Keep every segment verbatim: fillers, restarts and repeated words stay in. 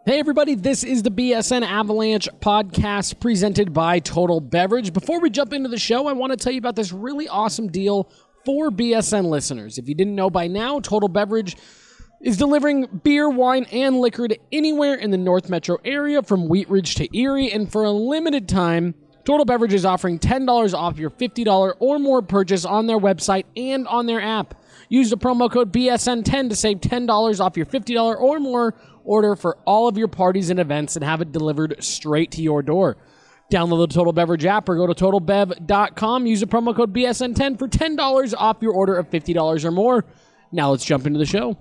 Hey everybody, this is the B S N Avalanche podcast presented by Total Beverage. Before we jump into the show, I want to tell you about this really awesome deal for B S N listeners. If you didn't know by now, Total Beverage is delivering beer, wine, and liquor to anywhere in the North Metro area from Wheat Ridge to Erie, and for a limited time, Total Beverage is offering ten dollars off your fifty dollars or more purchase on their website and on their app. Use the promo code B S N ten to save ten dollars off your fifty dollars or more order for all of your parties and events and have it delivered straight to your door. Download the Total Beverage app or go to total bev dot com. Use the promo code B S N ten for ten dollars off your order of fifty dollars or more. Now let's jump into the show.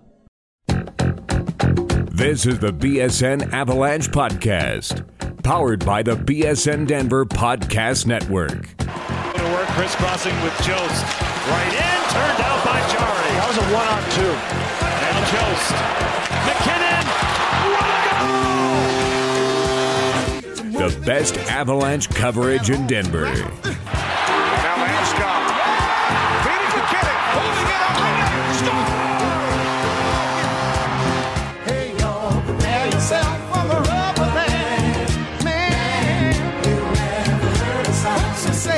This is the B S N Avalanche Podcast, powered by the B S N Denver Podcast Network. To work, crisscrossing with Jost. Right in, turned out by Jari. That was a one-on-two. And Jost. McKinnon. The best Avalanche coverage in Denver. Now Landeskog. Feeding McKinnon. Holding it up. Stop. Hey, y'all, prepare yourself for the rubber band. Man, you never heard a song to say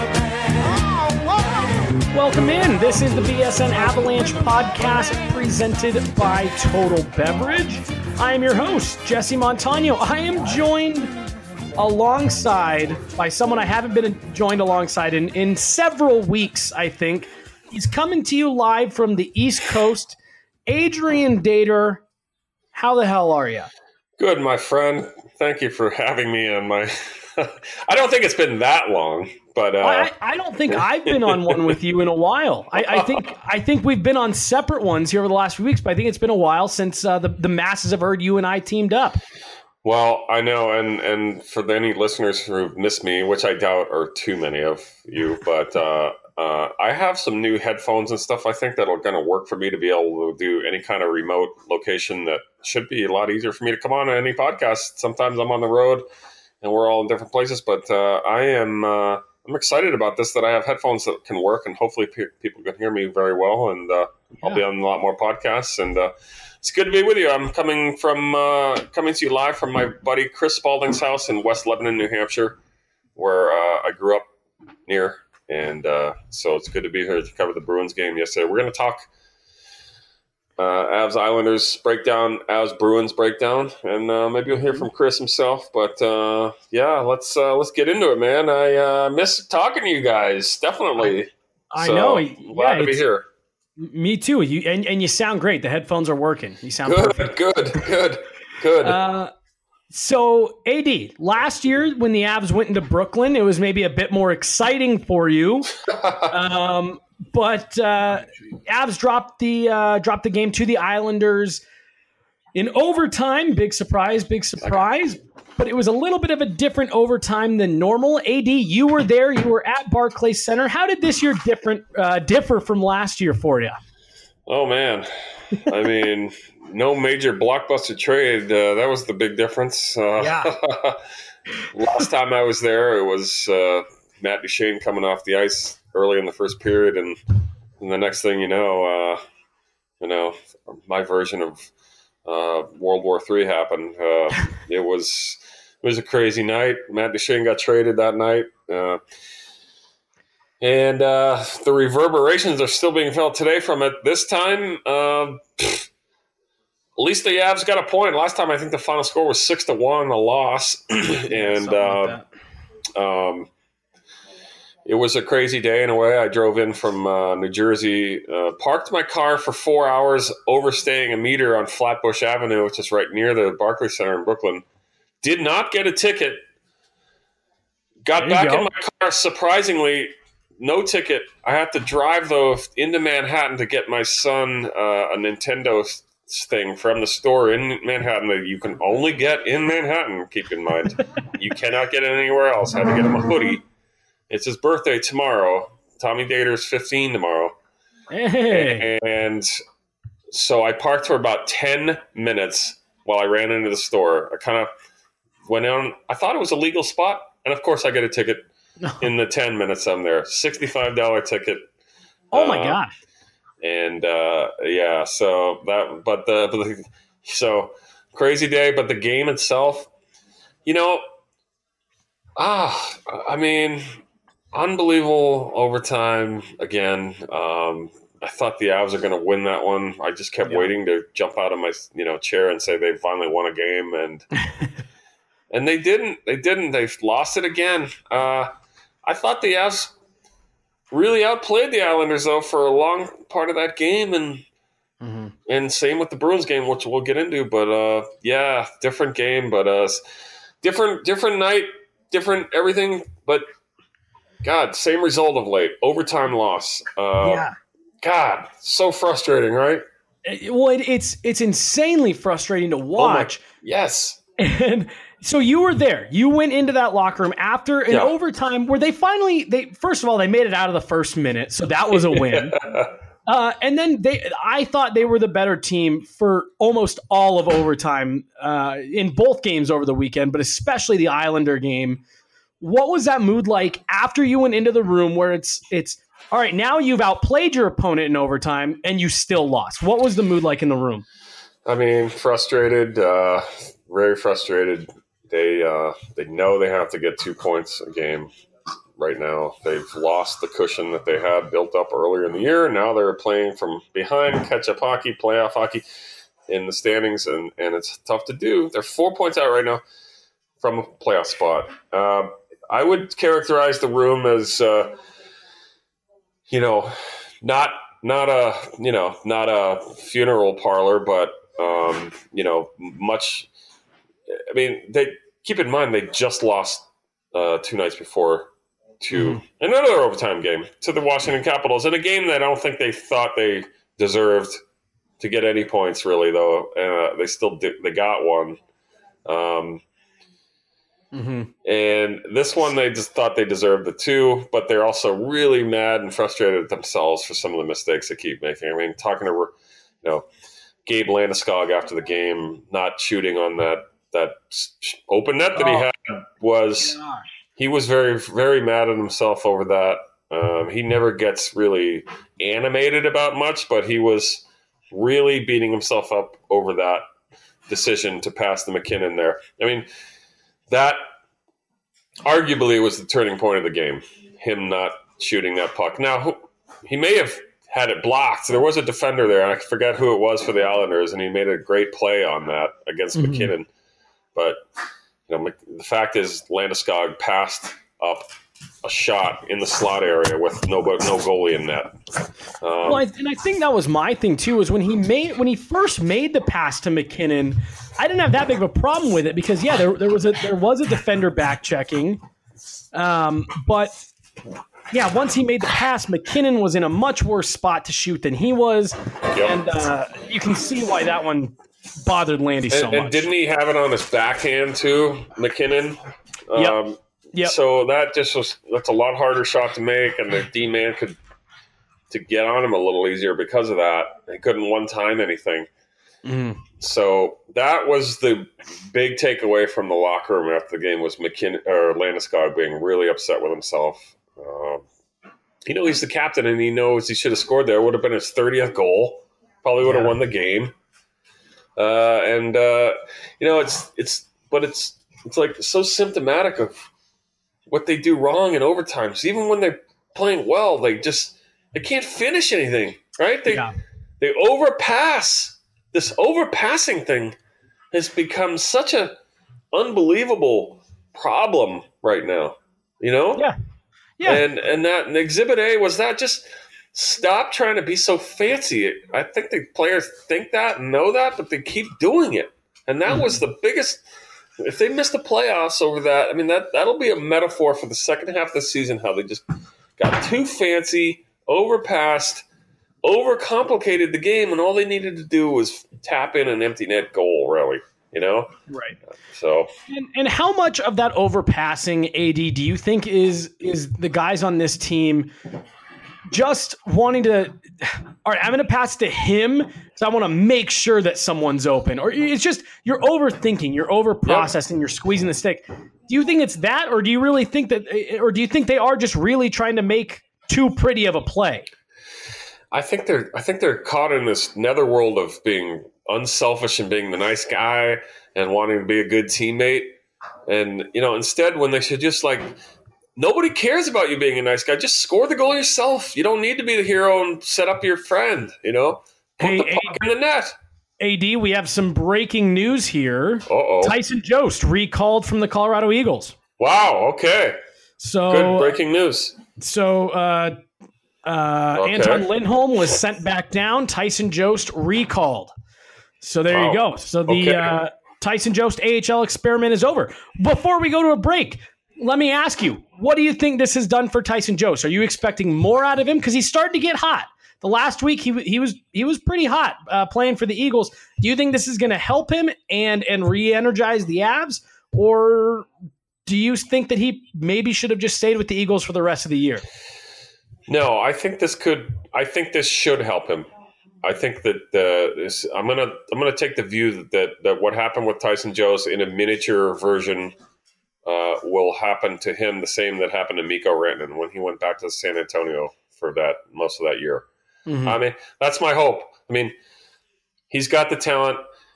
Welcome in. This is the B S N Avalanche podcast presented by Total Beverage. I am your host, Jesse Montano. I am joined alongside by someone I haven't been joined alongside in, in several weeks, I think. He's coming to you live from the East Coast. Adrian Dater, how the hell are you? Good, my friend. Thank you for having me on my... I don't think it's been that long, but... Uh... I, I don't think I've been on one with you in a while. I, I think I think we've been on separate ones here over the last few weeks, but I think it's been a while since uh, the, the masses have heard you and I teamed up. Well, I know, and, and for any listeners who've missed me, which I doubt are too many of you, but uh, uh, I have some new headphones and stuff I think that are going to work for me to be able to do any kind of remote location that should be a lot easier for me to come on to any podcast. Sometimes I'm on the road and we're all in different places, but uh, I am uh, I'm excited about this, that I have headphones that can work, and hopefully pe- people can hear me very well, and uh, yeah. I'll be on a lot more podcasts, and uh, it's good to be with you. I'm coming from uh, coming to you live from my buddy Chris Spalding's house in West Lebanon, New Hampshire, where uh, I grew up near. And uh, so it's good to be here to cover the Bruins game yesterday. We're going to talk uh, Avs Islanders breakdown, Avs Bruins breakdown, and uh, maybe you'll hear from Chris himself. But uh, yeah, let's uh, let's get into it, man. I uh, miss talking to you guys, definitely. I, I so, know. Glad yeah, to be here. Me too. You and, and you sound great. The headphones are working. You sound good, perfect. Good, good, good. Uh, so, A D, last year when the Avs went into Brooklyn, it was maybe a bit more exciting for you. um, but uh, Avs dropped the uh, dropped the game to the Islanders in overtime. Big surprise, big surprise. But it was a little bit of a different overtime than normal. A D, you were there. You were at Barclays Center. How did this year different uh, differ from last year for you? Oh, man. I mean, no major blockbuster trade. Uh, that was the big difference. Uh, yeah. Last time I was there, it was uh, Matt Duchene coming off the ice early in the first period. And, and the next thing you know, uh, you know, my version of uh, World War Three happened. Uh, it was... It was a crazy night. Matt Duchene got traded that night. Uh, and uh, the reverberations are still being felt today from it. This time, uh, at least the Avs got a point. Last time, I think the final score was six to one, a loss. and uh, like um, it was a crazy day in a way. I drove in from uh, New Jersey, uh, parked my car for four hours, overstaying a meter on Flatbush Avenue, which is right near the Barclays Center in Brooklyn. Did not get a ticket. Got back go. in my car, surprisingly, no ticket. I had to drive, though, into Manhattan to get my son uh, a Nintendo thing from the store in Manhattan that you can only get in Manhattan, keep in mind. You cannot get it anywhere else. I had to get him a hoodie. It's his birthday tomorrow. Tommy Dater's fifteen tomorrow. Hey. And so I parked for about ten minutes while I ran into the store. I kind of went on. I thought it was a legal spot. And, of course, I get a ticket no. in the ten minutes I'm there. sixty-five dollars ticket. Oh, my uh, gosh. And, uh, yeah, so that – but the, but the – so crazy day, but the game itself, you know, ah, I mean, unbelievable overtime again. Um, I thought the Avs are going to win that one. I just kept yeah. waiting to jump out of my you know chair and say they finally won a game, and and they didn't. They didn't. They lost it again. Uh, I thought the Avs really outplayed the Islanders though for a long part of that game, and mm-hmm. and same with the Bruins game, which we'll get into. But uh, yeah, different game, but uh, different different night, different everything. But God, same result of late. Overtime loss. Uh, yeah. God, so frustrating, right? Well, it, it's it's insanely frustrating to watch. Oh my, yes. And so you were there. You went into that locker room after an yeah. overtime where they finally they first of all they made it out of the first minute, so that was a win. uh, and then they, I thought they were the better team for almost all of overtime uh, in both games over the weekend, but especially the Islander game. What was that mood like after you went into the room where it's it's all right, now you've outplayed your opponent in overtime and you still lost? What was the mood like in the room? I mean, frustrated, uh, very frustrated. They uh, they know they have to get two points a game right now. They've lost the cushion that they had built up earlier in the year. Now they're playing from behind, catch-up hockey, playoff hockey in the standings, and, and it's tough to do. They're four points out right now from a playoff spot. Uh, I would characterize the room as... Uh, You know, not not a you know not a funeral parlor, but um, you know, much. I mean, they keep in mind they just lost uh, two nights before to mm-hmm. another overtime game to the Washington Capitals in a game that I don't think they thought they deserved to get any points really. Though uh, they still did, they got one. Um, Mm-hmm. And this one, they just thought they deserved the two, but they're also really mad and frustrated at themselves for some of the mistakes they keep making. I mean, talking to, you know, Gabe Landeskog after the game, not shooting on that that open net that oh, he had was gosh. he was very very mad at himself over that. Um, he never gets really animated about much, but he was really beating himself up over that decision to pass the McKinnon there. I mean. That arguably was the turning point of the game, him not shooting that puck. Now, he may have had it blocked. There was a defender there, and I forget who it was for the Islanders, and he made a great play on that against mm-hmm. McKinnon. But you know, the fact is Landeskog passed up a shot in the slot area with no no goalie in net. Um, well, I, and I think that was my thing too. Was when he made when he first made the pass to McKinnon, I didn't have that big of a problem with it because yeah, there there was a there was a defender back checking, um, but yeah, once he made the pass, McKinnon was in a much worse spot to shoot than he was, yep. and uh, you can see why that one bothered Landy so and, much. And didn't he have it on his backhand too, McKinnon? Um, yep. Yep. So that just was that's a lot harder shot to make, and the D man could to get on him a little easier because of that. He couldn't one time anything. Mm. So that was the big takeaway from the locker room after the game was McKinnon or Landeskog being really upset with himself. Um, you know he's the captain, and he knows he should have scored there. It would have been his thirtieth goal. Probably would have yeah. won the game. Uh, and uh, you know it's it's but it's it's like so symptomatic of what they do wrong in overtime. So even when they're playing well, they just they can't finish anything, right? They yeah. they overpass. This overpassing thing has become such a unbelievable problem right now. You know? Yeah. Yeah. And and that and Exhibit A was that just stop trying to be so fancy. I think the players think that and know that, but they keep doing it. And that mm-hmm. was the biggest. If they miss the playoffs over that, I mean, that, that'll be a metaphor for the second half of the season, how they just got too fancy, overpassed, overcomplicated the game, and all they needed to do was tap in an empty net goal, really, you know? Right. So, And, and how much of that overpassing, A D, do you think is is the guys on this team just wanting to, all right, I'm going to pass to him because I want to make sure that someone's open? Or it's just you're overthinking, you're over-processing, you're squeezing the stick. Do you think it's that, or do you really think that, or do you think they are just really trying to make too pretty of a play? I think they're I think they're caught in this netherworld of being unselfish and being the nice guy and wanting to be a good teammate. And, you know, instead when they should just like, nobody cares about you being a nice guy. Just score the goal yourself. You don't need to be the hero and set up your friend, you know? Put Hey, the puck hey. in the net. A D, we have some breaking news here. Uh-oh. Tyson Jost recalled from the Colorado Eagles. Wow, okay. So, Good breaking news. so uh, uh, Okay. Anton Lindholm was sent back down. Tyson Jost recalled. So there you Wow. go. So the Okay. uh, Tyson Jost A H L experiment is over. Before we go to a break, let me ask you, what do you think this has done for Tyson Jost? Are you expecting more out of him? Because he's starting to get hot. The last week he he was he was pretty hot uh, playing for the Eagles. Do you think this is going to help him and and re-energize the Avs, or do you think that he maybe should have just stayed with the Eagles for the rest of the year? No, I think this could. I think this should help him. I think that uh, this, I'm gonna I'm gonna take the view that, that that what happened with Tyson Jost in a miniature version uh, will happen to him the same that happened to Mikko Rantanen when he went back to San Antonio for that most of that year. Mm-hmm. I mean, that's my hope. I mean, he's got the talent.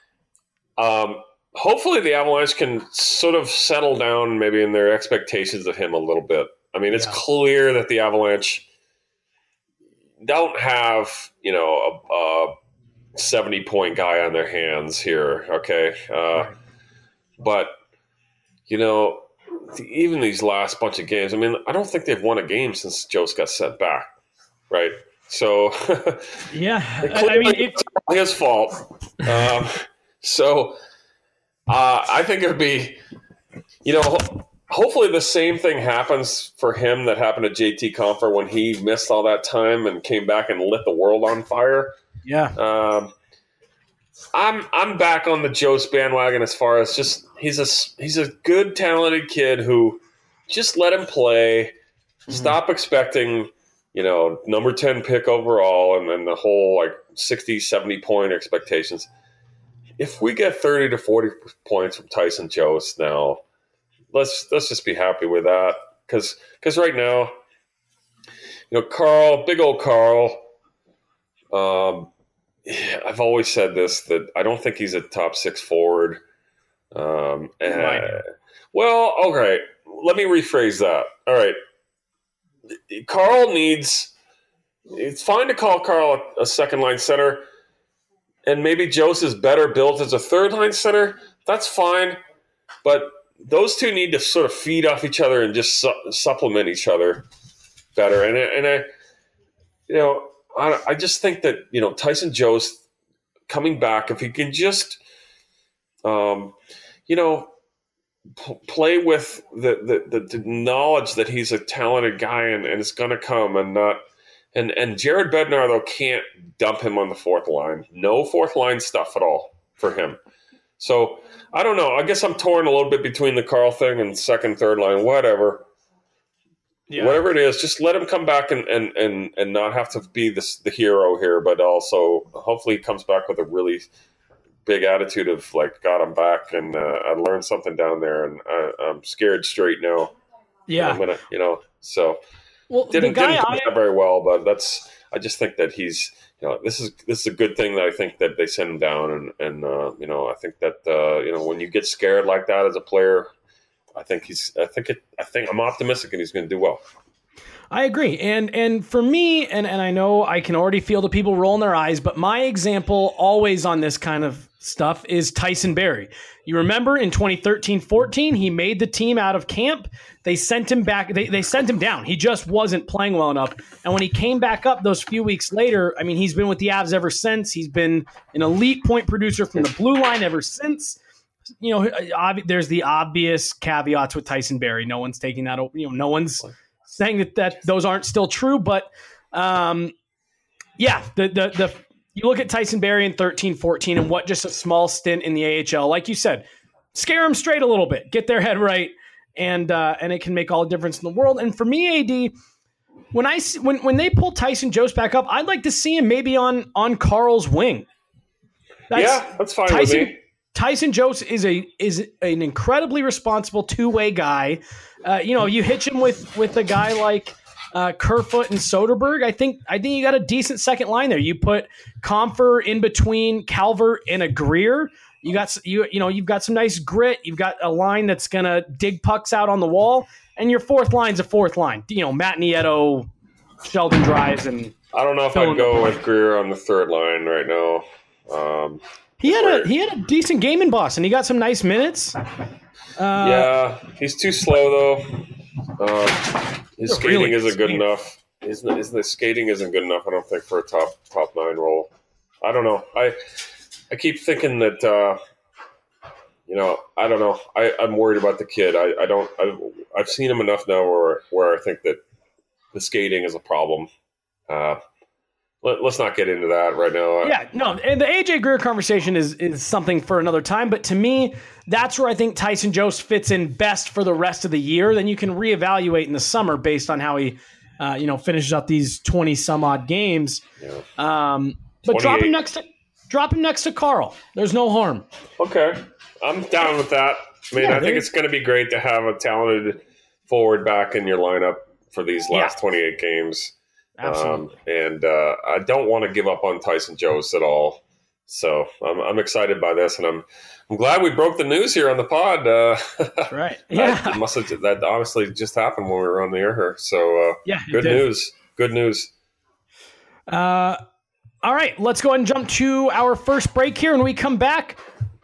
Um, hopefully, the Avalanche can sort of settle down maybe in their expectations of him a little bit. I mean, it's Yeah. clear that the Avalanche don't have, you know, a, a seventy-point guy on their hands here, okay? Uh, but, you know, even these last bunch of games, I mean, I don't think they've won a game since Jost got sent back, right? So, Yeah, I, I mean, it, it's his fault. Um, so, uh, I think it would be, you know, ho- hopefully the same thing happens for him that happened to J T Compher when he missed all that time and came back and lit the world on fire. yeah, Um, I'm I'm back on the Jost bandwagon as far as just he's a he's a good talented kid who just let him play. Stop expecting, you know, number ten pick overall and then the whole like sixty, seventy point expectations. If we get thirty to forty points from Tyson Jost now, let's let's just be happy with that because because right now, you know, Carl, big old Carl. Um, I've always said this that I don't think he's a top six forward. Um, and, well, okay, let me rephrase that. All right, Carl needs. It's fine to call Carl a, a second line center, and maybe Jost is better built as a third line center. That's fine, but those two need to sort of feed off each other and just su- supplement each other better. And and I, you know, I, I just think that, you know, Tyson Jost coming back, if he can just, um, you know, p- play with the, the, the, the knowledge that he's a talented guy and, and it's going to come and not. And and Jared Bednar, though, can't dump him on the fourth line. No fourth line stuff at all for him. So, I don't know. I guess I'm torn a little bit between the Carl thing and second, third line, whatever. yeah. Whatever it is, just let him come back and, and, and, and not have to be this, the hero here, but also hopefully he comes back with a really big attitude of, like, God, I'm back, and uh, I learned something down there, and I, I'm scared straight now. yeah. I'm gonna, you know, so... Well, Didn't, the guy didn't I, do that very well, but that's. I just think that he's. You know, this is this is a good thing that I think that they send him down, and and uh, you know, I think that uh, you know when you get scared like that as a player, I think he's. I think it. I think I'm optimistic, and he's going to do well. I agree. And and for me, and, and I know I can already feel the people rolling their eyes, but my example always on this kind of stuff is Tyson Barrie. You remember in twenty thirteen fourteen, he made the team out of camp. They sent him back. They, they sent him down. He just wasn't playing well enough. And when he came back up those few weeks later, I mean, he's been with the Avs ever since. He's been an elite point producer from the blue line ever since. You know, ob- there's the obvious caveats with Tyson Barrie. No one's taking that. You know, no one's saying that, that those aren't still true. But um, yeah, the the the you look at Tyson Barrie in thirteen fourteen and what just a small stint in the A H L, like you said, scare them straight a little bit, get their head right, and uh, and it can make all the difference in the world. And for me, A D, when I see, when when they pull Tyson Jost back up, I'd like to see him maybe on on Carl's wing. That's, yeah, that's fine Tyson, with me. Tyson Jost is a is an incredibly responsible two way guy. Uh, you know, you hitch him with with a guy like uh, Kerfoot and Soderberg, I think I think you got a decent second line there. You put Comfer in between Calvert and a Greer. You got you you know you've got some nice grit. You've got a line that's gonna dig pucks out on the wall, and your fourth line's a fourth line. You know, Matt Nieto, Sheldon Dries, and I don't know if I'd go with Greer on the third line right now. Um, he had a he had a decent game in Boston. He got some nice minutes. Uh, yeah, he's too slow though. Uh, his skating really isn't good skating. enough. His, his, his skating isn't good enough, I don't think, for a top top nine role. I don't know. I I keep thinking that, uh, you know, I don't know. I, I'm worried about the kid. I, I don't. I've, I've seen him enough now where where I think that the skating is a problem. Uh, let, let's not get into that right now. Yeah, no, and the A J Greer conversation is is something for another time. But to me, that's where I think Tyson Jost fits in best for the rest of the year. Then you can reevaluate in the summer based on how he, uh, you know, finishes up these twenty some odd games. Yeah. Um, but drop him next to drop him next to Carl. There's no harm. Okay, I'm down with that. I mean, Yeah, I think it's going to be great to have a talented forward back in your lineup for these last Yeah. twenty-eight games. Absolutely. Um, and uh, I don't want to give up on Tyson Jost at all. So I'm, I'm excited by this, and I'm I'm glad we broke the news here on the pod. Uh, That's right. Yeah. that must have that honestly just happened when we were on the air here. So uh, Yeah, it good did. news. Good news. Uh, all right, let's go ahead and jump to our first break here. When we come back,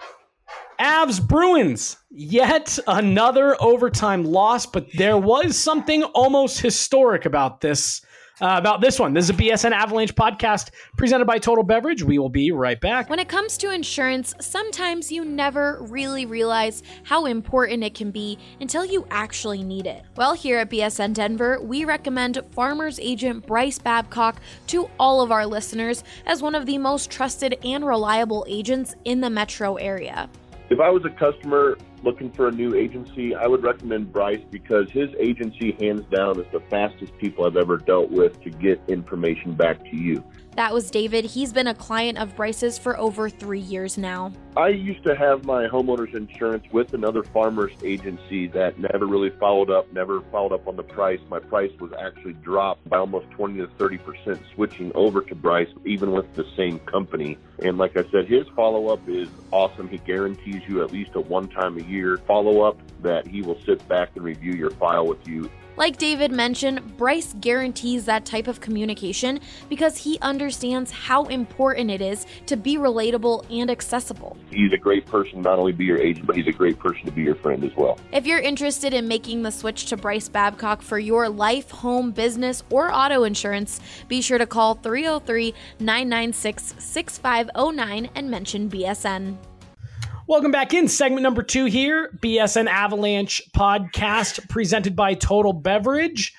Avs Bruins, yet another overtime loss, but there was something almost historic about this. Uh, about this one. This is a B S N Avalanche podcast presented by Total Beverage. We will be right back. When it comes to insurance, sometimes you never really realize how important it can be until you actually need it. Well, here at B S N Denver, we recommend Farmers Agent Bryce Babcock to all of our listeners as one of the most trusted and reliable agents in the metro area. If I was a customer looking for a new agency, I would recommend Bryce because his agency, hands down, is the fastest people I've ever dealt with to get information back to you. That was David. He's been a client of Bryce's for over three years now. I used to have my homeowner's insurance with another farmer's agency that never really followed up, never followed up on the price. My price was actually dropped by almost twenty to thirty percent switching over to Bryce, even with the same company. And like I said, his follow-up is awesome. He guarantees you at least a one-time a year follow-up that he will sit back and review your file with you. Like David mentioned, Bryce guarantees that type of communication because he understands how important it is to be relatable and accessible. He's a great person, not only be your agent, but he's a great person to be your friend as well. If you're interested in making the switch to Bryce Babcock for your life, home, business, or auto insurance, be sure to call three oh three, nine nine six, six five oh nine and mention B S N. Welcome back in segment number two here, B S N Avalanche podcast presented by Total Beverage.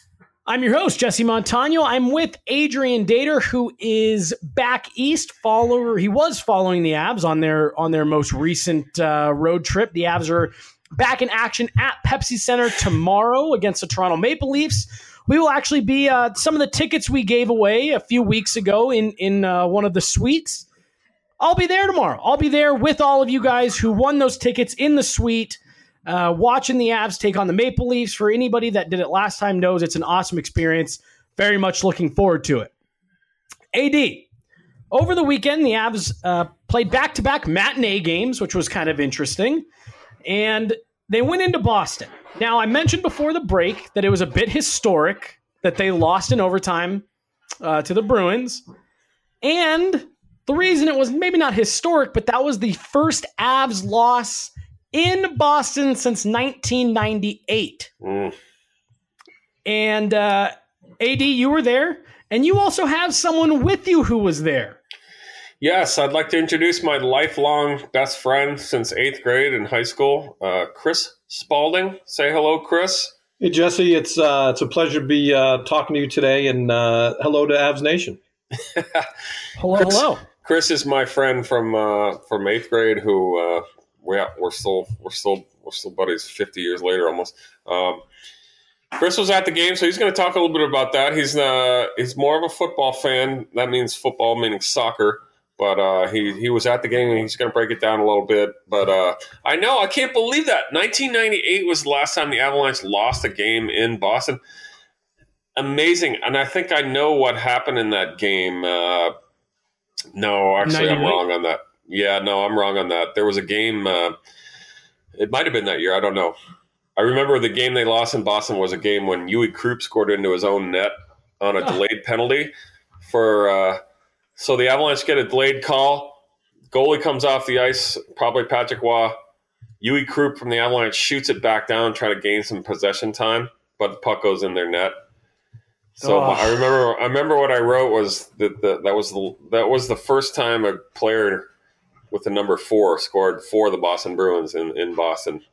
I'm your host, Jesse Montano. I'm with Adrian Dater, who is back east. Follower, he was following the Avs on their on their most recent uh, road trip. The Avs are back in action at Pepsi Center tomorrow against the Toronto Maple Leafs. We will actually be uh, some of the tickets we gave away a few weeks ago in in uh, one of the suites. I'll be there tomorrow. I'll be there with all of you guys who won those tickets in the suite, uh, watching the Avs take on the Maple Leafs. For anybody that did it last time knows it's an awesome experience. Very much looking forward to it. A D, over the weekend, the Avs uh, played back-to-back matinee games, which was kind of interesting, and they went into Boston. Now, I mentioned before the break that it was a bit historic that they lost in overtime uh, to the Bruins, and the reason it was maybe not historic, but that was the first Avs loss in Boston since nineteen ninety-eight. Mm. And uh, A D, you were there, and you also have someone with you who was there. Yes, I'd like to introduce my lifelong best friend since eighth grade in high school, uh, Chris Spalding. Say hello, Chris. Hey, Jesse. It's uh, it's a pleasure to be uh, talking to you today, and uh, hello to Avs Nation. Hello, Chris, hello. Chris is my friend from uh, from eighth grade. Who uh, we we're still we're still we're still buddies fifty years later almost. Um, Chris was at the game, so he's going to talk a little bit about that. He's uh, he's more of a football fan. That means football, meaning soccer. But uh, he he was at the game, and he's going to break it down a little bit. But uh, I know I can't believe that nineteen ninety-eight was the last time the Avalanche lost a game in Boston. amazing. And I think I know what happened in that game. Uh, no, actually, I'm wrong on that. Yeah, no, I'm wrong on that. There was a game. Uh, it might have been that year. I don't know. I remember the game they lost in Boston was a game when Uwe Krupp scored into his own net on a delayed penalty. For uh, so the Avalanche get a delayed call. Goalie comes off the ice, probably Patrick Waugh. Uwe Krupp from the Avalanche shoots it back down, trying to gain some possession time, but the puck goes in their net. So Oh. I remember, I remember what I wrote was that the, that was the that was the first time a player with the number four scored for the Boston Bruins in, in Boston.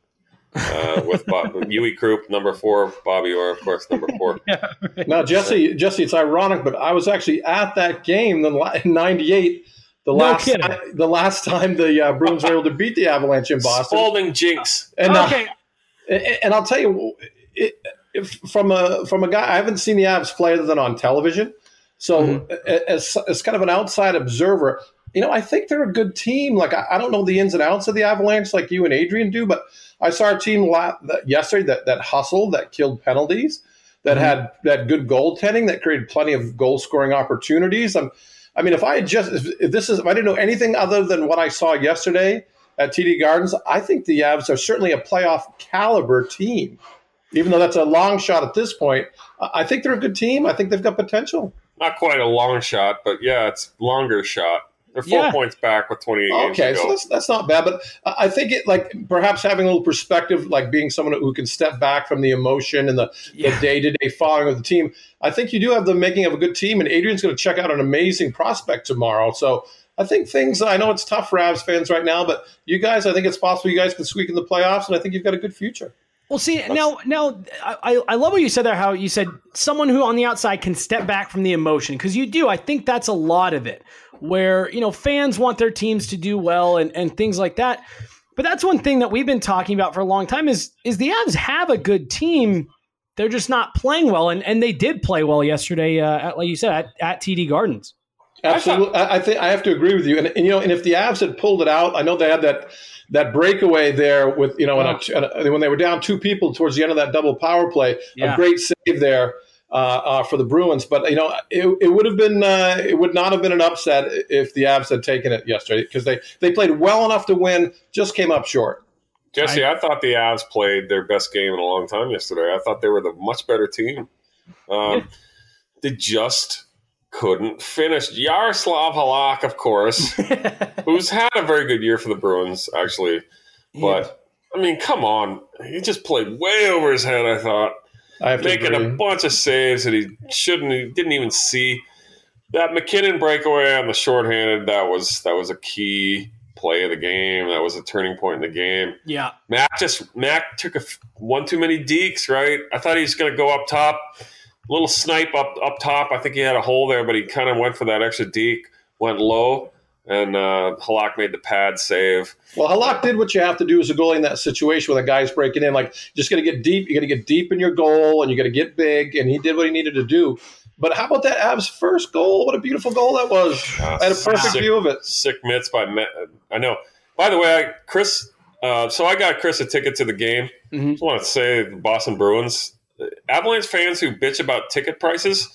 Uh, with Bob, Uwe Krupp, number four, Bobby Orr, of course, number four. Yeah, right. Now, Jesse, Jesse, it's ironic, but I was actually at that game in ninety-eight. The No last, kidding. time, the last time the uh, Bruins were able to beat the Avalanche in Boston. Spalding jinx. And, uh, Okay. and, and I'll tell you, it, if, from a from a guy, I haven't seen the Avs play other than on television. So Mm-hmm. as, as kind of an outside observer, you know, I think they're a good team. Like, I, I don't know the ins and outs of the Avalanche like you and Adrian do, but I saw a team la- that, yesterday that, that hustled, that killed penalties, that Mm-hmm. had that good goaltending, that created plenty of goal scoring opportunities. I'm, I mean, if I had just if, if this is if I didn't know anything other than what I saw yesterday at T D Gardens, I think the Avs are certainly a playoff caliber team. Even though that's a long shot at this point, I I think they're a good team. I think they've got potential. Not quite a long shot, but yeah, it's longer shot. They're four Yeah. points back with twenty-eight games Okay, to so go. that's that's not bad, but I I think it like perhaps having a little perspective, like being someone who can step back from the emotion and the, Yeah. the day-to-day following of the team. I think you do have the making of a good team, and Adrian's going to check out an amazing prospect tomorrow. So I think things. I know it's tough for Avs fans right now, but you guys, I think it's possible you guys can squeak in the playoffs, and I think you've got a good future. Well, see, now, now, I, I love what you said there. How you said someone who on the outside can step back from the emotion, because you do. I think that's a lot of it, where you know fans want their teams to do well and, and things like that. But that's one thing that we've been talking about for a long time is is the Avs have a good team. They're just not playing well, and, and they did play well yesterday, uh, at, like you said, at, at T D Gardens. Absolutely, I, I think I have to agree with you. And, and you know, and if the Avs had pulled it out, I know they had that that breakaway there with you know, Oh. in a, when they were down two people towards the end of that double power play, Yeah. a great save there uh, uh, for the Bruins. But you know, it, it would have been uh, it would not have been an upset if the Avs had taken it yesterday because they they played well enough to win, just came up short. Jesse, I, thought the Avs played their best game in a long time yesterday. I thought they were the much better team. Um, they just couldn't finish. Yaroslav Halak, of course, who's had a very good year for the Bruins, actually. But, I mean, come on. He just played way over his head, I thought. I have to Making agree. a bunch of saves that he shouldn't, he didn't even see. That McKinnon breakaway on the shorthanded, that was that was a key play of the game. That was a turning point in the game. Yeah. Mac just Mac took a f- one too many dekes, right? I thought he was going to go up top, little snipe up up top. I think he had a hole there, but he kind of went for that extra deke, went low, and uh, Halak made the pad save. Well, Halak did what you have to do as a goalie in that situation when a guy's breaking in. Like, just got to get deep. You got to get deep in your goal, and you got to get big. And he did what he needed to do. But how about that Avs first goal? What a beautiful goal that was! Uh, I had a perfect sick, view of it. Sick mitts by Met. I know. By the way, I, Chris. Uh, so I got Chris a ticket to the game. Mhm. Just want to say the Boston Bruins, Avalanche fans who bitch about ticket prices.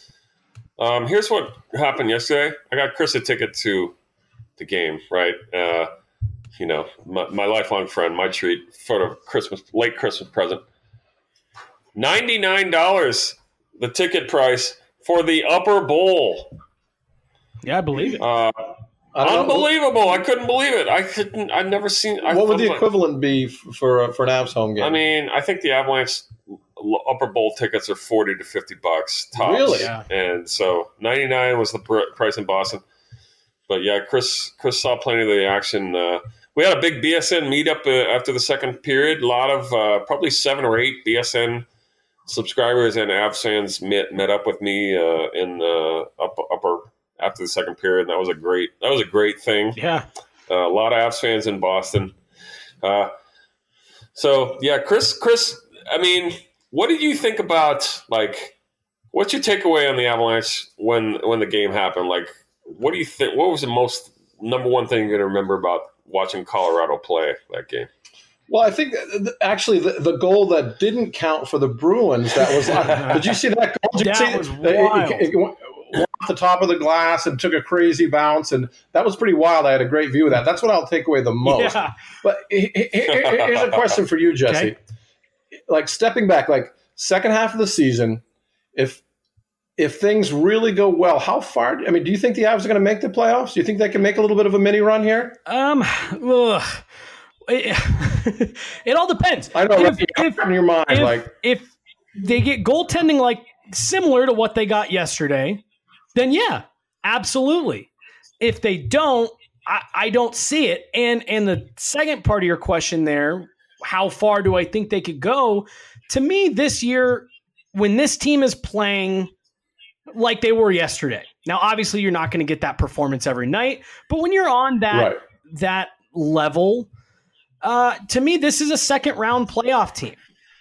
Um, here's what happened yesterday. I got Chris a ticket to the game. Right. Uh, you know, my, my lifelong friend, my treat for the Christmas late Christmas present. ninety-nine dollars the ticket price for the upper bowl. Yeah, I believe it. Uh, I don't know. unbelievable! I couldn't believe it. I couldn't. I'd never seen. I, What would the I'm like- equivalent be f- for uh, for an Avs home game? I mean, I think the Avalanche upper bowl tickets are forty to fifty bucks tops. Really? Yeah. And so ninety-nine was the pr- price in Boston. But yeah, Chris Chris saw plenty of the action. Uh, we had a big B S N meetup uh, after the second period. A lot of uh, probably seven or eight B S N subscribers and Avs fans met met up with me uh, in the upper, upper after the second period. That was a great that was a great thing. Yeah. Uh, a lot of Avs fans in Boston. Uh, so yeah, Chris. Chris, I mean, what did you think about like? What's your takeaway on the Avalanche when when the game happened? Like, what do you think? What was the most number one thing you're going to remember about watching Colorado play that game? Well, I think th- actually the, the goal that didn't count for the Bruins, that was, uh, did you see that goal? Did you That see was it? It, it, it went off the top of the glass and took a crazy bounce, and that was pretty wild. I had a great view of that. That's what I'll take away the most. Yeah. But he- he- he- here's a question for you, Jesse. Okay. Like stepping back, like second half of the season, if if things really go well, how far? I mean, do you think the Avs are going to make the playoffs? Do you think they can make a little bit of a mini run here? Um, ugh. It, it all depends. I know, if, right? if, in your mind, if, like if they get goaltending like similar to what they got yesterday, then yeah, absolutely. If they don't, I, I don't see it. And and the second part of your question there, how far do I think they could go? To me, this year, when this team is playing like they were yesterday. Now, obviously, you're not going to get that performance every night, but when you're on that right. that level, uh, to me, this is a second round playoff team.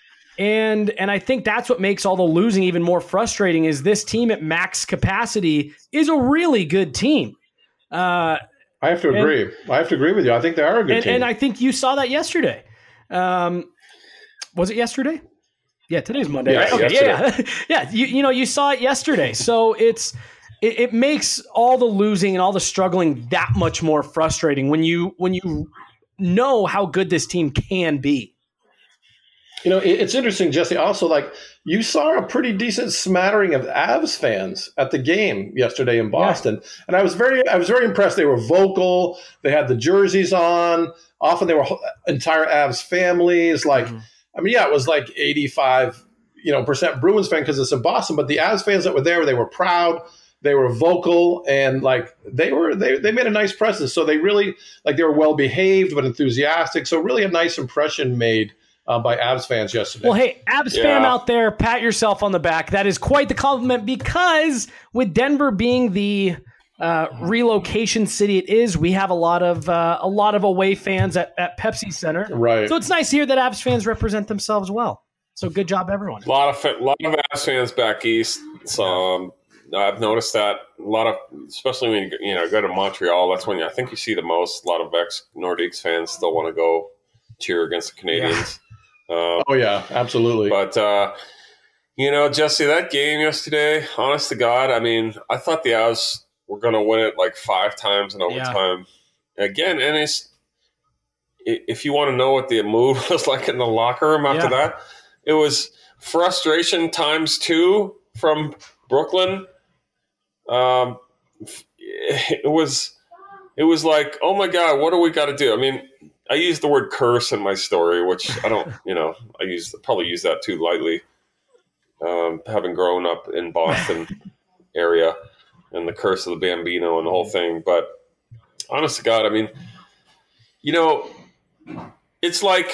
And and I think that's what makes all the losing even more frustrating is this team at max capacity is a really good team. Uh, I have to and, agree. I have to agree with you. I think they are a good and, team. And I think you saw that yesterday. Um, was it yesterday? Yeah, today's Monday. Yeah, right? Okay, yesterday. yeah, yeah. You, you know, you saw it yesterday. So it's it, it makes all the losing and all the struggling that much more frustrating when you when you know how good this team can be. You know, it, it's interesting, Jesse. Also, like you saw a pretty decent smattering of Avs fans at the game yesterday in Boston, yeah. and I was very, I was very impressed. They were vocal. They had the jerseys on. Often they were entire Avs families. Like, mm-hmm. I mean, yeah, it was like eighty-five, you know, percent Bruins fan because it's in Boston. But the Avs fans that were there, they were proud. They were vocal, and like they were, they they made a nice presence. So they really like they were well behaved but enthusiastic. So really a nice impression made. Uh, by Avs fans yesterday. Well, hey, Avs yeah. fan out there, pat yourself on the back. That is quite the compliment because with Denver being the uh, relocation city it is, we have a lot of uh, a lot of away fans at, at Pepsi Center. Right. So it's nice to hear that Avs fans represent themselves well. So good job, everyone. A lot of a lot of Avs fans back east. So um, I've noticed that a lot of, especially when you, you know go to Montreal. That's when you, I think you see the most. A lot of ex Nordiques fans still want to go cheer against the Canadians. Yeah. Um, oh, yeah, absolutely. But, uh, you know, Jesse, that game yesterday, honest to God, I mean, I thought the Avs were going to win it like five times in overtime. Yeah. Again, and it's, if you want to know what the mood was like in the locker room after yeah. that, it was frustration times two from Brooklyn. Um, it was, it was like, oh my God, what do we got to do? I mean, I use the word curse in my story, which I don't, you know, I use probably use that too lightly. Um, having grown up in Boston area and the curse of the Bambino and the whole thing. But honest to God, I mean, you know, it's like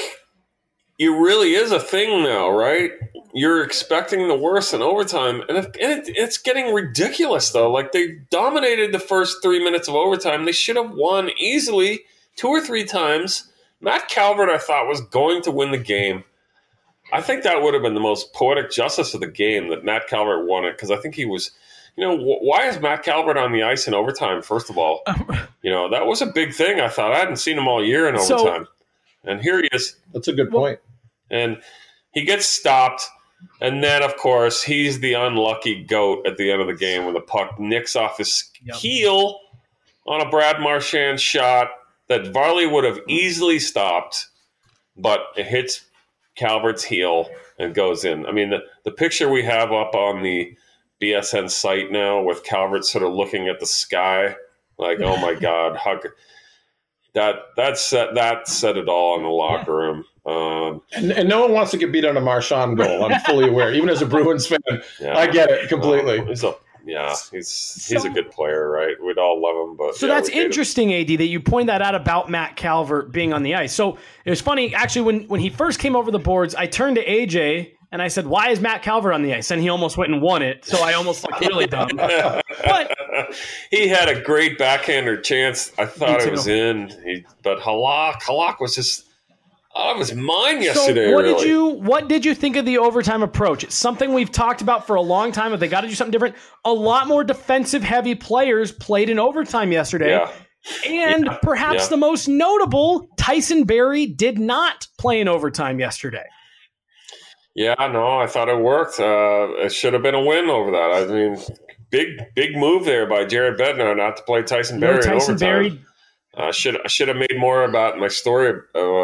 it really is a thing now, right? You're expecting the worst in overtime. And, if, and it, it's getting ridiculous, though. Like they dominated the first three minutes of overtime. They should have won easily. Two or three times. Matt Calvert, I thought, was going to win the game. I think that would have been the most poetic justice of the game that Matt Calvert won it because I think he was, you know, wh why is Matt Calvert on the ice in overtime, first of all? You know, that was a big thing, I thought. I hadn't seen him all year in overtime. So, and here he is. That's a good point. And he gets stopped. And then, of course, he's the unlucky goat at the end of the game when the puck nicks off his yep. heel on a Brad Marchand shot that Varley would have easily stopped, but it hits Calvert's heel and goes in. I mean, the, the picture we have up on the B S N site now with Calvert sort of looking at the sky, like, oh my God, how could, that that set that said it all in the locker room. Um, and, and no one wants to get beat on a Marchand goal. I'm fully aware, even as a Bruins fan. Yeah, I get it completely. Uh, he's a, yeah, he's he's so, a good player, right? We'd all love him, but so yeah, that's interesting, A D, that you point that out about Matt Calvert being on the ice. So it was funny, actually, when when he first came over the boards, I turned to A J and I said, "Why is Matt Calvert on the ice?" And he almost went and won it. So I almost looked really dumb. But he had a great backhander chance. I thought it was in, he, but Halak Halak was just. Oh, it was mine yesterday. So what really. did you what did you think of the overtime approach? It's something we've talked about for a long time. If they got to do something different, a lot more defensive heavy players played in overtime yesterday. Yeah. And yeah, perhaps yeah. the most notable, Tyson Barrie did not play in overtime yesterday. Yeah, no, I thought it worked. Uh, it should have been a win over that. I mean, big, big move there by Jared Bednar not to play Tyson Barrie no Tyson in overtime. Barrie. I uh, should I should have made more about my story. Uh,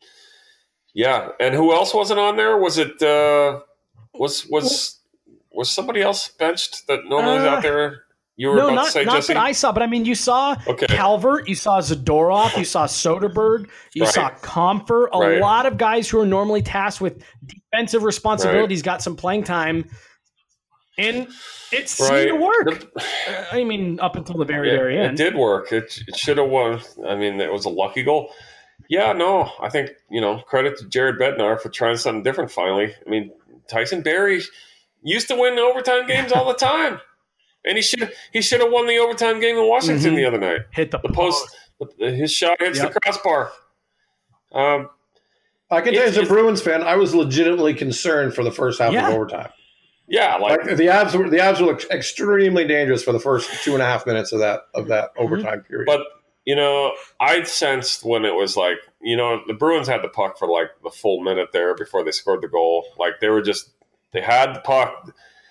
yeah, and who else wasn't on there? Was it uh, was was was somebody else benched that normally is Uh, out there? You were No, about not, to say not Jesse? that I saw, but I mean, you saw Okay. Calvert, you saw Zadorov, you saw Soderberg, you Right. saw Comfer. A Right. lot of guys who are normally tasked with defensive responsibilities got some playing time, and it seemed Right. to work. The- Uh, I mean, up until the very, Yeah, very it end. did work. It, it should have won. I mean, it was a lucky goal. Yeah, no, I think, you know, credit to Jared Bednar for trying something different finally. I mean, Tyson Barrie used to win overtime games all the time. And he should he should have won the overtime game in Washington Mhm. the other night. Hit the, The post, his shot hits Yep. the crossbar. Um, I can tell you, It's- as a it's- Bruins fan, I was legitimately concerned for the first half Yeah. of overtime. yeah, like, Like the Avs were the Avs were extremely dangerous for the first two and a half minutes of that of that overtime period. but you know, I sensed when it was like, you know, the Bruins had the puck for like the full minute there before they scored the goal. Like they were just they had the puck,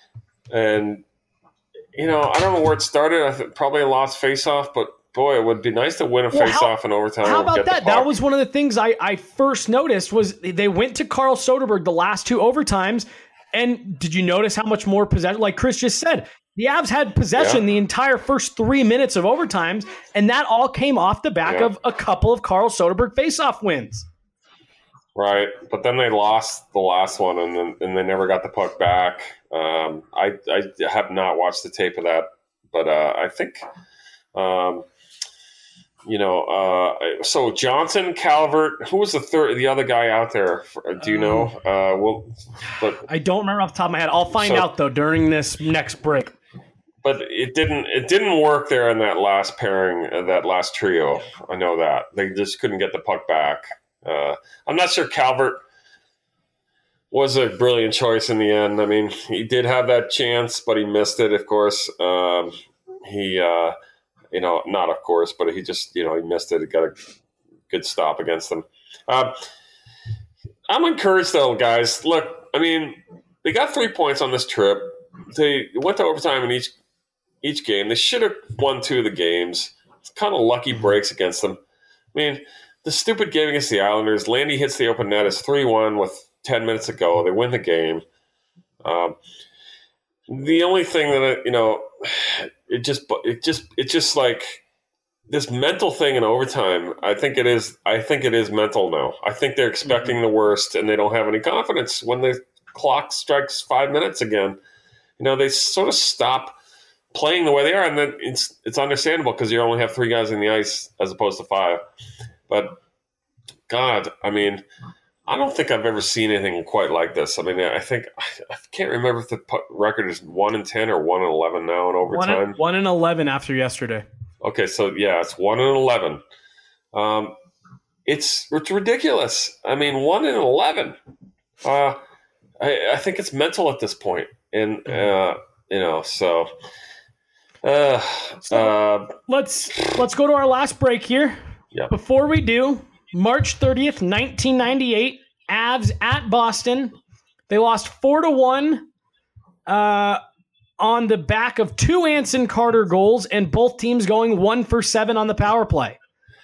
and you know, I don't know where it started. I think probably a lost faceoff, but boy, it would be nice to win a Well, how- faceoff in overtime. How and about get the that? That puck. was one of the things I, I first noticed was they went to Carl Soderberg the last two overtimes. And did you notice how much more possession? Like Chris just said, the Avs had possession Yeah. the entire first three minutes of overtimes, and that all came off the back Yeah. of a couple of Carl Soderberg faceoff wins. Right, but then they lost the last one, and then and they never got the puck back. Um, I I have not watched the tape of that, but uh, I think, um, you know, uh, so Johnson, Calvert, who was the third, the other guy out there? Do you know? Uh, well, but I don't remember off the top of my head. I'll find So- out though during this next break. but it didn't it didn't work there in that last pairing, uh, that last trio. I know that they just couldn't get the puck back. Uh, I'm not sure Calvert was a brilliant choice in the end. I mean, he did have that chance, but he missed it, of course. Um, he, uh, you know, not of course, but he just, you know, he missed it. He got a good stop against them. Uh, I'm encouraged, though, guys. Look, I mean, they got three points on this trip. They went to overtime in each each game. They should have won two of the games. It's kind of lucky breaks against them. I mean, the stupid game against the Islanders, Landy hits the open net. It's three one with ten minutes to go. They win the game. Um, the only thing that, you know, it just, it just, it's just like this mental thing in overtime. I think it is, I think it is mental now. I think they're expecting the worst and they don't have any confidence when the clock strikes five minutes again. You know, they sort of stop playing the way they are, and then it's it's understandable because you only have three guys in the ice as opposed to five. But God, I mean, I don't think I've ever seen anything quite like this. I mean, I think I can't remember if the record is one and ten or one and eleven now in One overtime. and, one and eleven after yesterday. Okay, so yeah, it's one and eleven. Um, it's it's ridiculous. I mean, one and eleven. Uh, I I think it's mental at this point, and uh, you know, so. Uh, uh, Let's let's go to our last break here. Yeah. Before we do, March thirtieth, nineteen ninety-eight, Avs at Boston. They lost four to one uh, on the back of two Anson Carter goals, and both teams going one for seven on the power play.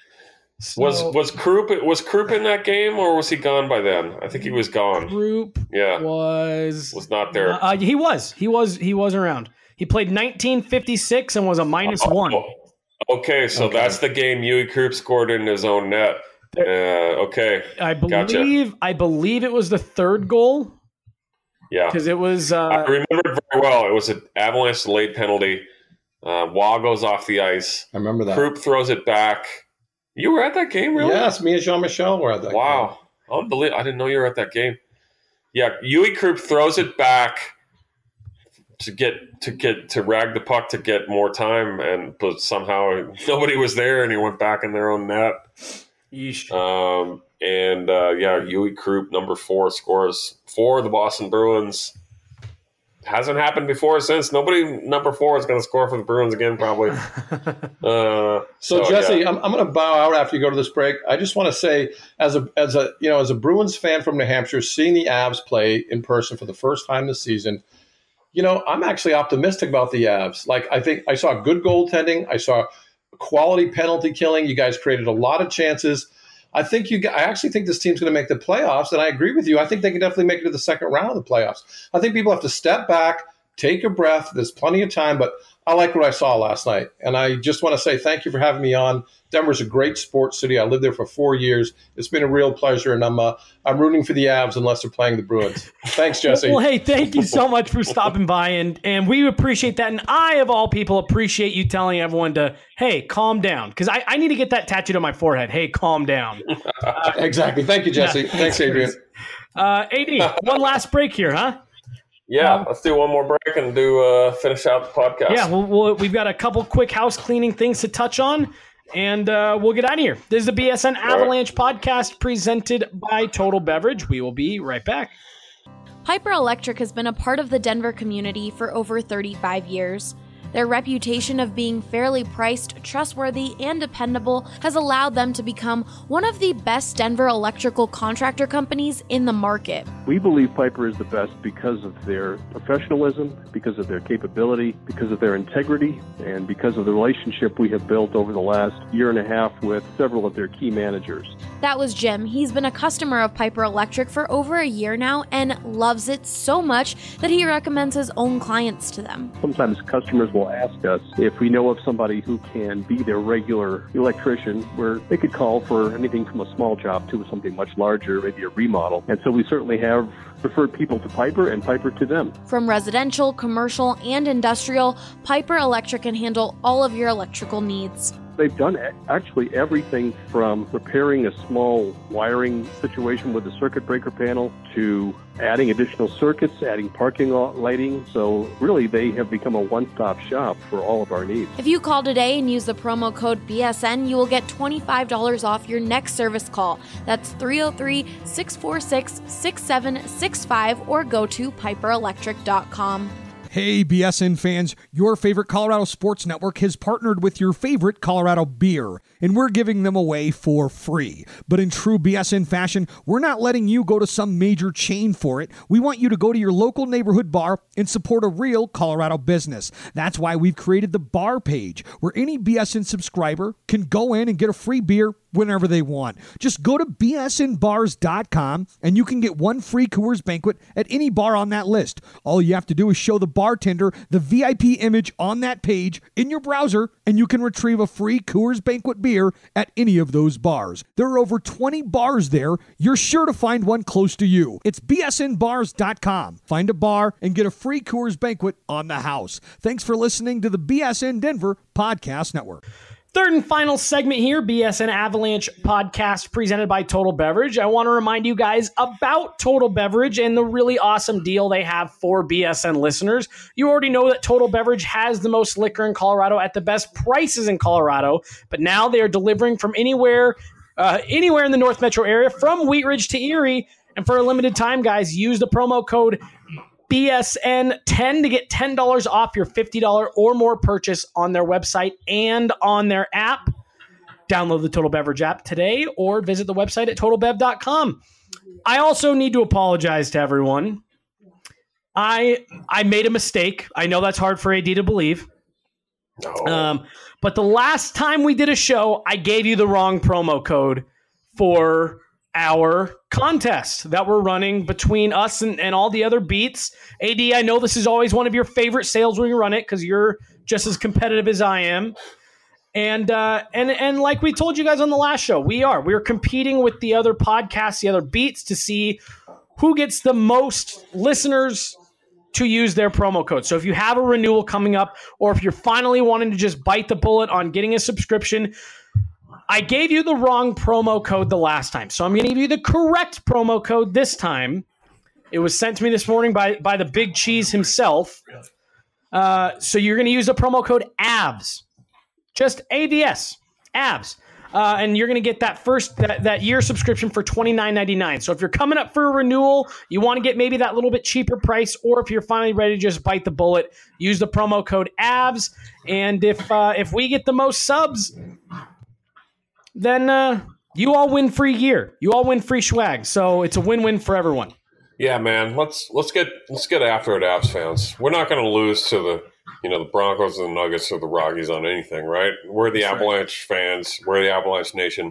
So, was was Krupp was Krupp in that game, or was he gone by then? I think he was gone. Krupp Yeah, was was not there. Uh, he was he was he was around. He played nineteen fifty-six and was a minus Oh, one. Okay, so Okay. that's the game Yui Krupp scored in his own net. Uh, okay, I Gotcha. believe I believe it was the third goal yeah. because it was. Uh, I remember it very well. It was an Avalanche late penalty. Uh, Wah goes off the ice. I remember that. Krupp throws it back. You were at that game, really? Yes, me and Jean Michel were at that. Wow. Unbelievable. I didn't know you were at that game. Yeah, Yui Krupp throws it back to get to get to rag the puck to get more time, and but somehow nobody was there, and he went back in their own net. yeesh. Um, and uh, yeah, Yui Krupp, number four, scores for the Boston Bruins. hasn't happened before since. Nobody number four is going to score for the Bruins again, probably. uh, so, so, Jesse, yeah. I'm, I'm going to bow out after you go to this break. I just want to say, as a as a you know as a Bruins fan from New Hampshire, seeing the Avs play in person for the first time this season, you know, I'm actually optimistic about the Avs. Like, I think I saw good goaltending. I saw quality penalty killing. You guys created a lot of chances. I think you. I actually think this team's going to make the playoffs, and I agree with you. I think they can definitely make it to the second round of the playoffs. I think people have to step back, take a breath. There's plenty of time, but I like what I saw last night, and I just want to say thank you for having me on. Denver's a great sports city. I lived there for four years. It's been a real pleasure, and I'm uh, I'm rooting for the Avs unless they're playing the Bruins. Thanks, Jesse. Well, hey, thank you so much for stopping by, and and we appreciate that. And I, of all people, appreciate you telling everyone to, hey, calm down, because I, I need to get that tattooed on my forehead. Hey, calm down. Uh, exactly. Thank you, Jesse. Yeah. Thanks, Adrian. Uh, A D, one last break here, huh? Yeah, um, let's do one more break and do uh, finish out the podcast. Yeah, well, we'll, we've got a couple quick house cleaning things to touch on, and uh, we'll get out of here. This is the B S N Avalanche right. podcast presented by Total Beverage. We will be right back. Piper Electric has been a part of the Denver community for over thirty-five years. Their reputation of being fairly priced, trustworthy, and dependable has allowed them to become one of the best Denver electrical contractor companies in the market. We believe Piper is the best because of their professionalism, because of their capability, because of their integrity, and because of the relationship we have built over the last year and a half with several of their key managers. That was Jim. He's been a customer of Piper Electric for over a year now and loves it so much that he recommends his own clients to them. Sometimes customers will ask us if we know of somebody who can be their regular electrician, where they could call for anything from a small job to something much larger, maybe a remodel. And so we certainly have referred people to Piper and Piper to them. From residential, commercial, and industrial, Piper Electric can handle all of your electrical needs. They've done actually everything from repairing a small wiring situation with a circuit breaker panel to adding additional circuits, adding parking lot lighting. So really, they have become a one-stop shop for all of our needs. If you call today and use the promo code B S N, you will get twenty-five dollars off your next service call. That's three oh three, six four six, six seven six five or go to piper electric dot com. Hey, B S N fans, your favorite Colorado Sports Network has partnered with your favorite Colorado beer, and we're giving them away for free. But in true B S N fashion, we're not letting you go to some major chain for it. We want you to go to your local neighborhood bar and support a real Colorado business. That's why we've created the bar page, where any B S N subscriber can go in and get a free beer whenever they want. Just go to B S N bars dot com and you can get one free Coors Banquet at any bar on that list. All you have to do is show the bartender the V I P image on that page in your browser, and you can retrieve a free Coors Banquet beer at any of those bars. There are over twenty bars there. You're sure to find one close to you. It's B S N bars dot com. Find a bar and get a free Coors Banquet on the house. Thanks for listening to the B S N Denver Podcast Network. Third and final segment here, B S N Avalanche podcast presented by Total Beverage. I want to remind you guys about Total Beverage and the really awesome deal they have for B S N listeners. You already know that Total Beverage has the most liquor in Colorado at the best prices in Colorado, but now they are delivering from anywhere, uh, anywhere in the North Metro area, from Wheat Ridge to Erie. And for a limited time, guys, use the promo code B S N ten to get ten dollars off your fifty dollars or more purchase on their website and on their app. Download the Total Beverage app today or visit the website at total bev dot com. I also need to apologize to everyone. I I made a mistake. I know that's hard for A D to believe. Oh. Um, but the last time we did a show, I gave you the wrong promo code for our contest that we're running between us and, and all the other beats. A D, I know this is always one of your favorite sales when you run it because you're just as competitive as I am. And uh, and and like we told you guys on the last show, we are. We're competing with the other podcasts, the other beats, to see who gets the most listeners to use their promo code. So if you have a renewal coming up, or if you're finally wanting to just bite the bullet on getting a subscription, I gave you the wrong promo code the last time, so I'm going to give you the correct promo code this time. It was sent to me this morning by, by the Big Cheese himself. Uh, so you're going to use the promo code A V S. Just A V S. A V S. uh, and you're going to get that first that, that year subscription for twenty-nine ninety-nine. So if you're coming up for a renewal, you want to get maybe that little bit cheaper price, or if you're finally ready to just bite the bullet, use the promo code A V S. And if uh, if we get the most subs, then uh, you all win free gear. You all win free swag. So it's a win-win for everyone. Yeah, man. Let's let's get let's get after it, Avs fans. We're not going to lose to the you know the Broncos and the Nuggets or the Rockies on anything, right? We're the That's Avalanche right. fans. We're the Avalanche Nation.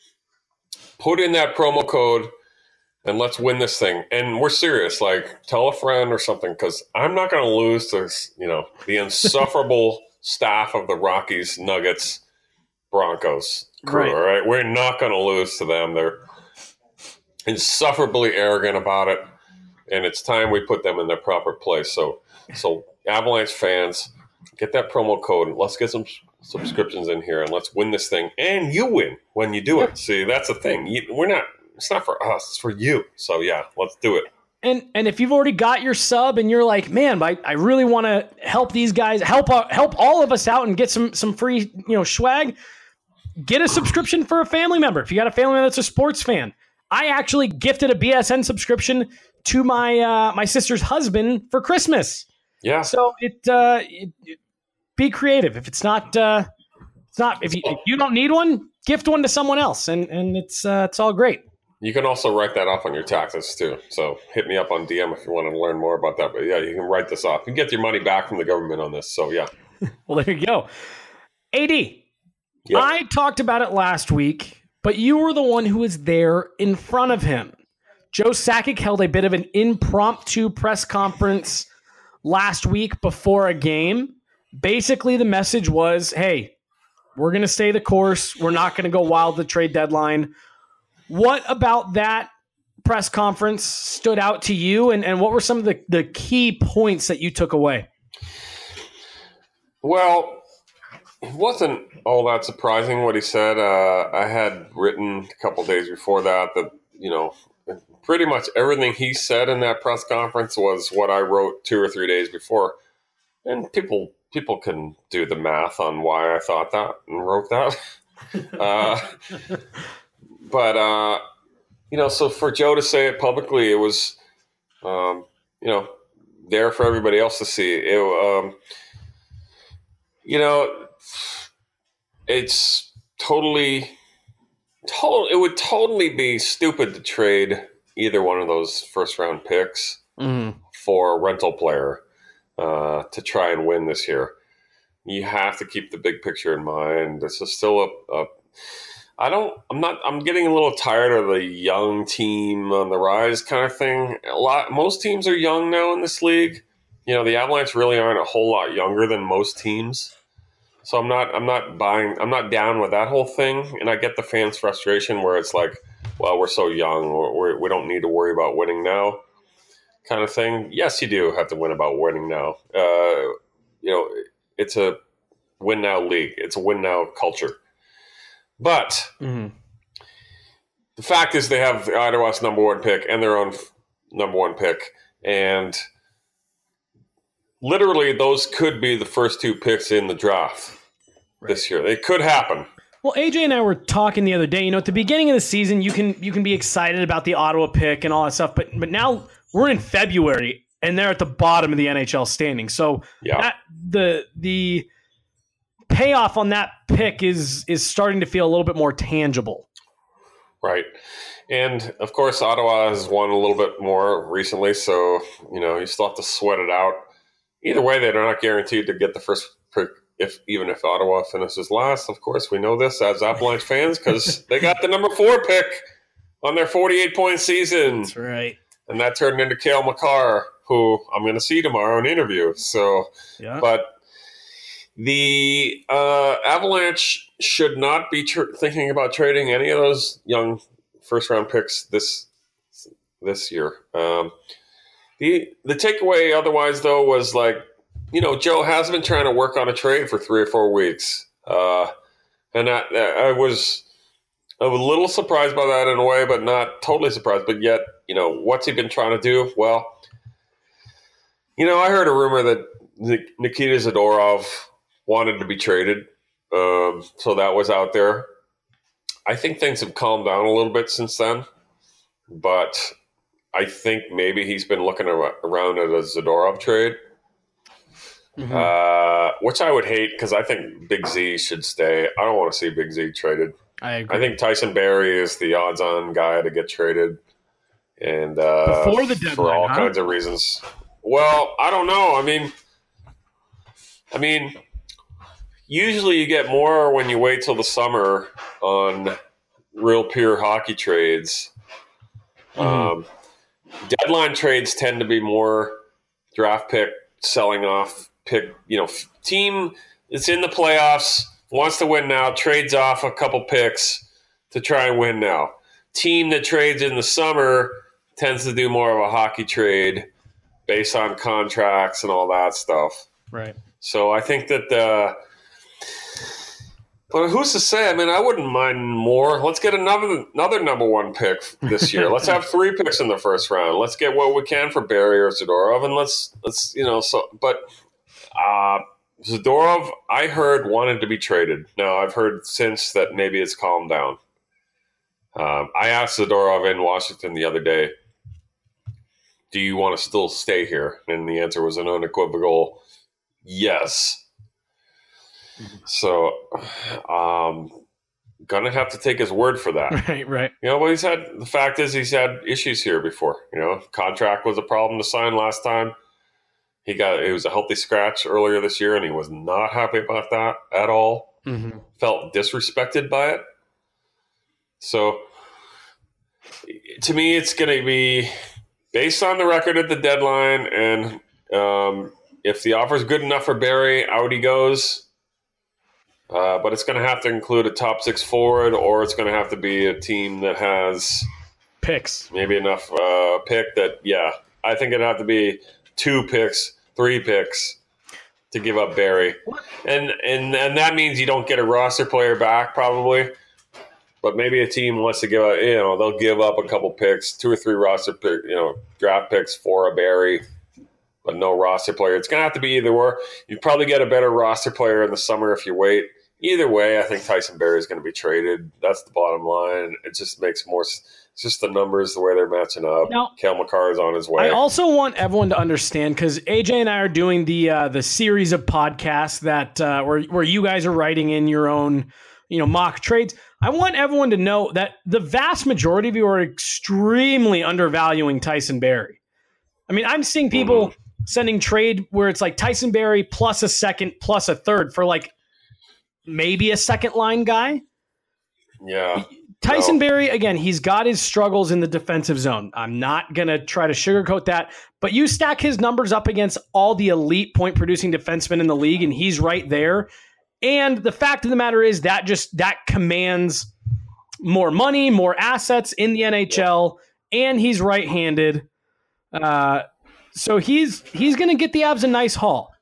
Put in that promo code and let's win this thing. And we're serious. Like, tell a friend or something, because I'm not going to lose to you know the insufferable staff of the Rockies, Nuggets, Broncos crew. Right. All right, we're not going to lose to them. They're insufferably arrogant about it. And it's time we put them in their proper place. So, so Avalanche fans, get that promo code. Let's get some subscriptions in here, and let's win this thing. And you win when you do it. See, that's the thing. You, we're not. It's not for us. It's for you. So yeah, let's do it. And and if you've already got your sub, and you're like, man, I, I really want to help these guys, help help all of us out, and get some some free you know swag. Get a subscription for a family member. If you got a family member that's a sports fan, I actually gifted a B S N subscription to my uh, my sister's husband for Christmas. Yeah. So it, uh, it, it be creative. If it's not, uh, it's not. If you, if you don't need one, gift one to someone else, and and it's uh, it's all great. You can also write that off on your taxes too. So hit me up on D M if you want to learn more about that. But yeah, you can write this off. You can get your money back from the government on this. So yeah. Well, there you go. A D, yep. I talked about it last week, but you were the one who was there in front of him. Joe Sakic held a bit of an impromptu press conference last week before a game. Basically, the message was, hey, we're going to stay the course. We're not going to go wild the trade deadline. What about that press conference stood out to you, and, and what were some of the, the key points that you took away? Well, it wasn't all that surprising what he said. Uh, I had written a couple days before that that, you know, pretty much everything he said in that press conference was what I wrote two or three days before. And people people can do the math on why I thought that and wrote that. uh, but, uh, you know, so for Joe to say it publicly, it was, um, you know, there for everybody else to see. It, um, you know, it's totally, total, it would totally be stupid to trade either one of those first round picks mm-hmm. for a rental player uh, to try and win this year. You have to keep the big picture in mind. This is still a, a I don't, I'm not, I'm getting a little tired of the young team on the rise kind of thing. A lot, most teams are young now in this league. You know, the Avalanche really aren't a whole lot younger than most teams. So I'm not, I'm not buying, I'm not down with that whole thing. And I get the fans' frustration where it's like, well, we're so young, we're, we don't need to worry about winning now kind of thing. Yes, you do have to win about winning now. Uh, you know, it's a win now league. It's a win now culture. But mm-hmm. the fact is they have Ottawa's number one pick and their own f- number one pick. And literally those could be the first two picks in the draft right. this year. It could happen. Well, A J and I were talking the other day, you know, at the beginning of the season, you can you can be excited about the Ottawa pick and all that stuff, but but now we're in February and they're at the bottom of the N H L standing. So yeah. that, the the payoff on that pick is is starting to feel a little bit more tangible. Right. And of course, Ottawa has won a little bit more recently, so you know, you still have to sweat it out. Either way, they're not guaranteed to get the first pick. If even if Ottawa finishes last, of course, we know this as Avalanche fans because they got the number four pick on their forty-eight point season. That's right. And that turned into Cale Makar, who I'm going to see tomorrow in an interview. So, yeah. But the uh, Avalanche should not be tr- thinking about trading any of those young first round picks this this year. Um, the the takeaway otherwise though was like, you know, Joe has been trying to work on a trade for three or four weeks. Uh, and I, I was I was a little surprised by that in a way, but not totally surprised. But yet, you know, what's he been trying to do? Well, you know, I heard a rumor that Nikita Zadorov wanted to be traded. Um, so that was out there. I think things have calmed down a little bit since then, but I think maybe he's been looking ar- around at a Zadorov trade, mm-hmm. uh, which I would hate because I think Big Z should stay. I don't want to see Big Z traded. I agree. I think Tyson Barrie is the odds-on guy to get traded, and uh, before the deadline, for all huh? kinds of reasons. Well, I don't know. I mean, I mean, usually you get more when you wait till the summer on real pure hockey trades. Mm-hmm. Um, deadline trades tend to be more draft pick selling off pick. You know, team that's in the playoffs wants to win now, trades off a couple picks to try and win now. Team that trades in the summer tends to do more of a hockey trade based on contracts and all that stuff. Right. So I think that the but who's to say? I mean, I wouldn't mind more. Let's get another another number one pick this year. Let's have three picks in the first round. Let's get what we can for Barrie or Zadorov, and let's let's you know. So, but uh, Zadorov, I heard wanted to be traded. Now I've heard since that maybe it's calmed down. Um, I asked Zadorov in Washington the other day, "Do you want to still stay here?" And the answer was an unequivocal yes. So, um, gonna have to take his word for that. Right, right. You know, but he's had, the fact is he's had issues here before. You know, contract was a problem to sign last time. He got, it was a healthy scratch earlier this year, and he was not happy about that at all. Mm-hmm. Felt disrespected by it. So, to me, it's going to be based on the record at the deadline, and um, if the offer is good enough for Barrie, out he goes. Uh, but it's going to have to include a top six forward, or it's going to have to be a team that has picks, maybe enough uh, pick that, yeah, I think it'd have to be two picks, three picks to give up Barrie, and and and that means you don't get a roster player back probably, but maybe a team wants to give up, you know, they'll give up a couple picks, two or three roster pick, you know, draft picks for a Barrie. But no roster player. It's going to have to be either or. You'd probably get a better roster player in the summer if you wait. Either way, I think Tyson Barrie is going to be traded. That's the bottom line. It just makes more. It's just the numbers, the way they're matching up. Now, Cale Makar is on his way. I also want everyone to understand, because A J and I are doing the uh, the series of podcasts that uh, where where you guys are writing in your own, you know, mock trades. I want everyone to know that the vast majority of you are extremely undervaluing Tyson Barrie. I mean, I'm seeing people. Mm-hmm. Sending trade where it's like Tyson Barrie plus a second plus a third for like maybe a second line guy. Yeah. Tyson no. Barrie, again, he's got his struggles in the defensive zone. I'm not going to try to sugarcoat that, but you stack his numbers up against all the elite point producing defensemen in the league, and he's right there. And the fact of the matter is that just that commands more money, more assets in the N H L, and he's right-handed. Uh, So he's he's going to get the Avs a nice haul.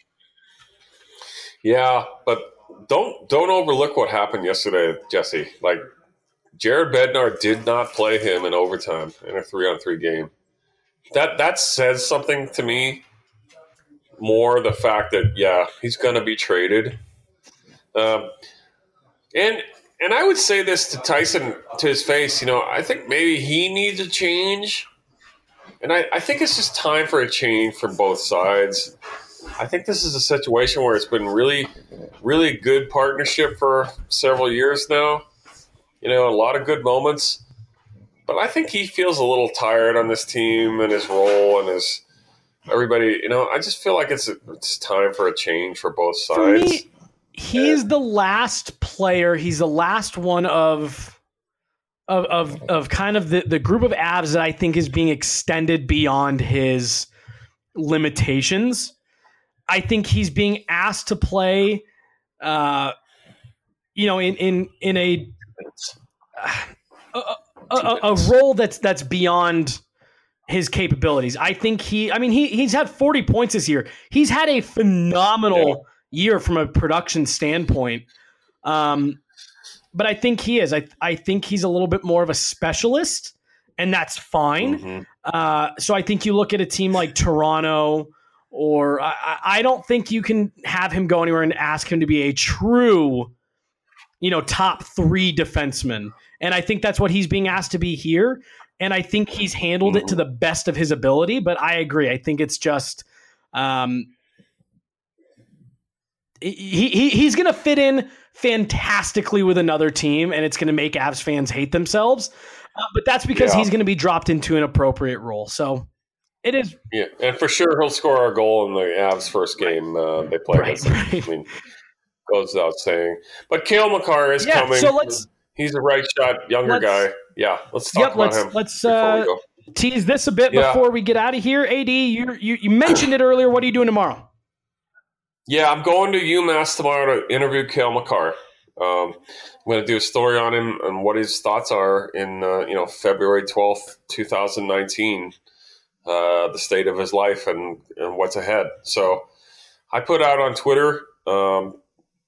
Yeah, but don't don't overlook what happened yesterday, Jesse. Like, Jared Bednar did not play him in overtime in a three-on-three game. That that says something to me. More the fact that yeah, he's going to be traded. Um, and and I would say this to Tyson to his face. You know, I think maybe he needs a change. And I, I think it's just time for a change from both sides. I think this is a situation where it's been really, really good partnership for several years now. You know, a lot of good moments. But I think he feels a little tired on this team and his role and his everybody. You know, I just feel like it's it's time for a change for both sides. For me, he's the last player. He's the last one of... Of, of of kind of the, the group of Avs that I think is being extended beyond his limitations. I think he's being asked to play, uh, you know, in in in a a, a a role that's that's beyond his capabilities. I think he. I mean, he he's had forty points this year. He's had a phenomenal year from a production standpoint. Um, But I think he is. I I think he's a little bit more of a specialist, and that's fine. Mm-hmm. Uh, so I think you look at a team like Toronto, or I, I don't think you can have him go anywhere and ask him to be a true you know, top three defensemen. And I think that's what he's being asked to be here. And I think he's handled it to the best of his ability. But I agree. I think it's just um, he, he he's going to fit in fantastically with another team, and it's going to make Avs fans hate themselves. Uh, but that's because yeah. he's going to be dropped into an appropriate role. So it is. Yeah, and for sure he'll score a goal in the Avs' first game uh, they play right, against right. them. I mean, goes without saying. But Cale Makar is yeah, coming. So let's. He's a right shot, younger guy. Yeah, let's talk yep, about let's, him. Let's uh, tease this a bit yeah. before we get out of here. A D, you, you you mentioned it earlier. What are you doing tomorrow? Yeah, I'm going to UMass tomorrow to interview Cale Makar. Um, I'm going to do a story on him and what his thoughts are in uh, you know February twelfth, twenty nineteen, uh, the state of his life and, and what's ahead. So I put out on Twitter. Um,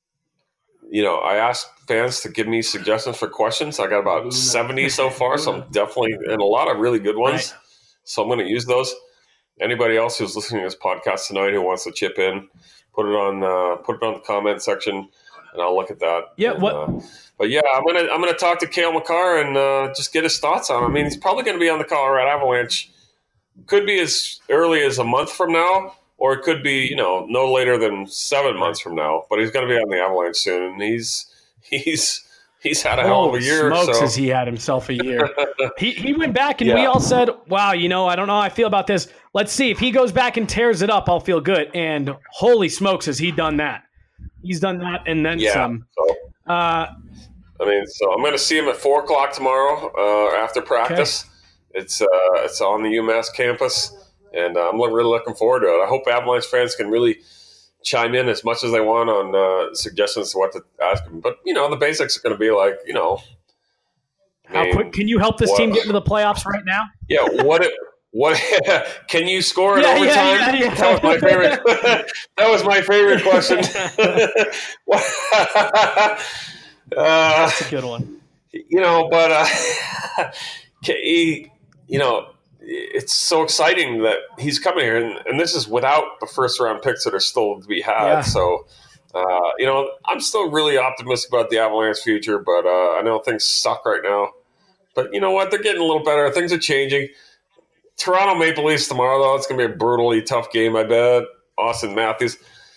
You know, I asked fans to give me suggestions for questions. I got about seventy so far, so I'm definitely, and a lot of really good ones. Right. So I'm going to use those. Anybody else who's listening to this podcast tonight who wants to chip in, put it on, uh, put it on the comment section, and I'll look at that. Yeah. And, what? Uh, but yeah, I'm gonna I'm gonna talk to Cale Makar and uh, just get his thoughts on him. I mean, he's probably going to be on the Colorado Avalanche. Could be as early as a month from now. Or it could be, you know, no later than seven months from now. But he's going to be on the Avalanche soon, and he's he's he's had a hell of a year. Smokes, so. has he had himself a year? he he went back, and yeah. we all said, "Wow, you know, I don't know how I feel about this. Let's see if he goes back and tears it up. I'll feel good." And holy smokes, has he done that? He's done that, and then yeah, some. So, uh, I mean, so I'm going to see him at four o'clock tomorrow uh, after practice. Okay. It's uh, it's on the UMass campus. And uh, I'm really looking forward to it. I hope Avalanche fans can really chime in as much as they want on uh, suggestions to what to ask them. But, you know, the basics are going to be like, you know. How mean, quick can you help this what, team get into the playoffs right now? Yeah, what it, what can you score in yeah, overtime? Yeah, yeah, yeah. That was my favorite. That was my favorite question. uh, That's a good one. You know, but, uh, he, you know, it's so exciting that he's coming here, and, and this is without the first round picks that are still to be had. Yeah. So, uh, you know, I'm still really optimistic about the Avalanche future, but uh, I know things suck right now. But you know what? They're getting a little better. Things are changing. Toronto Maple Leafs tomorrow, though. It's going to be a brutally tough game, I bet. Austin Matthews.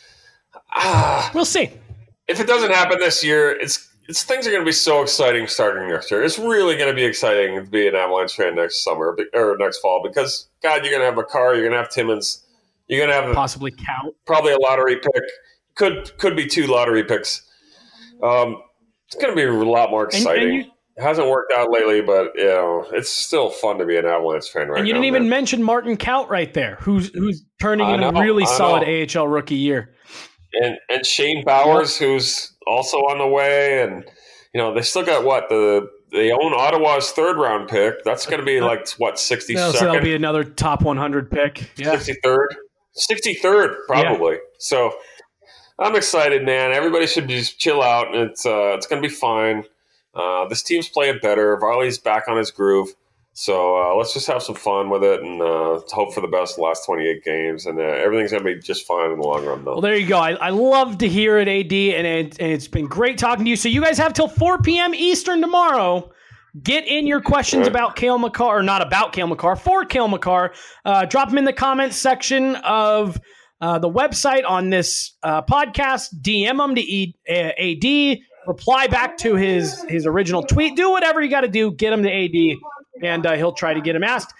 Ah, we'll see. If it doesn't happen this year, it's It's, things are going to be so exciting starting next year. It's really going to be exciting to be an Avalanche fan next summer or next fall because, God, you're going to have Makar, you're going to have Timmins, you're going to have possibly Count, probably a lottery pick. Could could be two lottery picks. Um, it's going to be a lot more exciting. And, and you, it hasn't worked out lately, but you know it's still fun to be an Avalanche fan right now. And you now, didn't even man. mention Martin Count right there, who's who's turning I in know, a really I solid know. A H L rookie year. And and Shane Bowers, who's also on the way, and you know they still got what the they own Ottawa's third round pick. That's going to be like what sixty second. So that'll be another top one hundred pick. Yeah, sixty third, sixty third probably. Yeah. So I'm excited, man. Everybody should just chill out. It's uh, it's going to be fine. Uh, this team's playing better. Varley's back on his groove. So uh, let's just have some fun with it and uh, hope for the best the last twenty-eight games. And uh, everything's going to be just fine in the long run, though. Well, there you go. I, I love to hear it, A D, and, it, and it's been great talking to you. So you guys have till four p.m. Eastern tomorrow. Get in your questions right. about Cale Makar, or not about Cale Makar, for Cale Makar. Uh, drop them in the comments section of uh, the website on this uh, podcast. D M them to e- A D. Reply back to his, his original tweet. Do whatever you got to do. Get him to A D. And uh, he'll try to get him asked.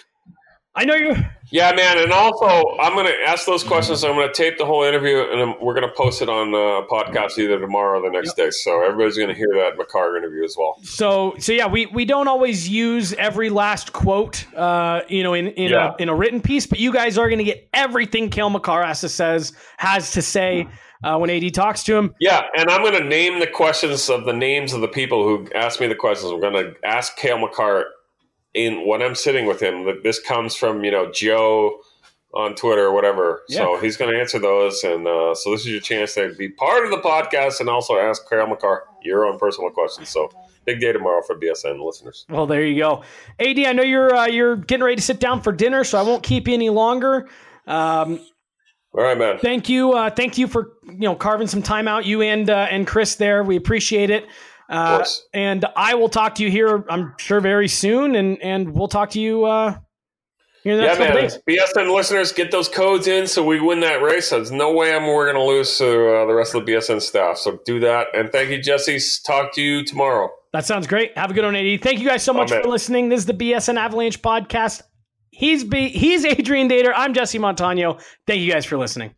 I know you. Yeah, man. And also, I'm going to ask those questions. I'm going to tape the whole interview, and we're going to post it on a podcast either tomorrow or the next yep. day. So everybody's going to hear that Makar interview as well. So, so yeah, we, we don't always use every last quote, uh, you know, in in, yeah. a, in a written piece, but you guys are going to get everything Cale Makar has to says has to say. Uh, when A D talks to him. Yeah, and I'm going to name the questions of the names of the people who asked me the questions. We're going to ask Cale Makar in when I'm sitting with him. This comes from, you know, Joe on Twitter or whatever. Yeah. So he's going to answer those. And uh, so this is your chance to be part of the podcast and also ask Cale Makar your own personal questions. So big day tomorrow for B S N listeners. Well, there you go. A D, I know you're uh, you're getting ready to sit down for dinner, so I won't keep you any longer. Um All right, man. Thank you. Uh, thank you for you know carving some time out, you and uh, and Chris there. We appreciate it. Uh, and I will talk to you here, I'm sure, very soon, and and we'll talk to you uh, here in the next yeah, couple man. days. B S N listeners, get those codes in so we win that race. There's no way I'm, we're going to lose to uh, the rest of the B S N staff. So do that. And thank you, Jesse. Talk to you tomorrow. That sounds great. Have a good one, A D. Thank you guys so much Amen. for listening. This is the B S N Avalanche podcast. He's B, he's Adrian Dater. I'm Jesse Montano. Thank you guys for listening.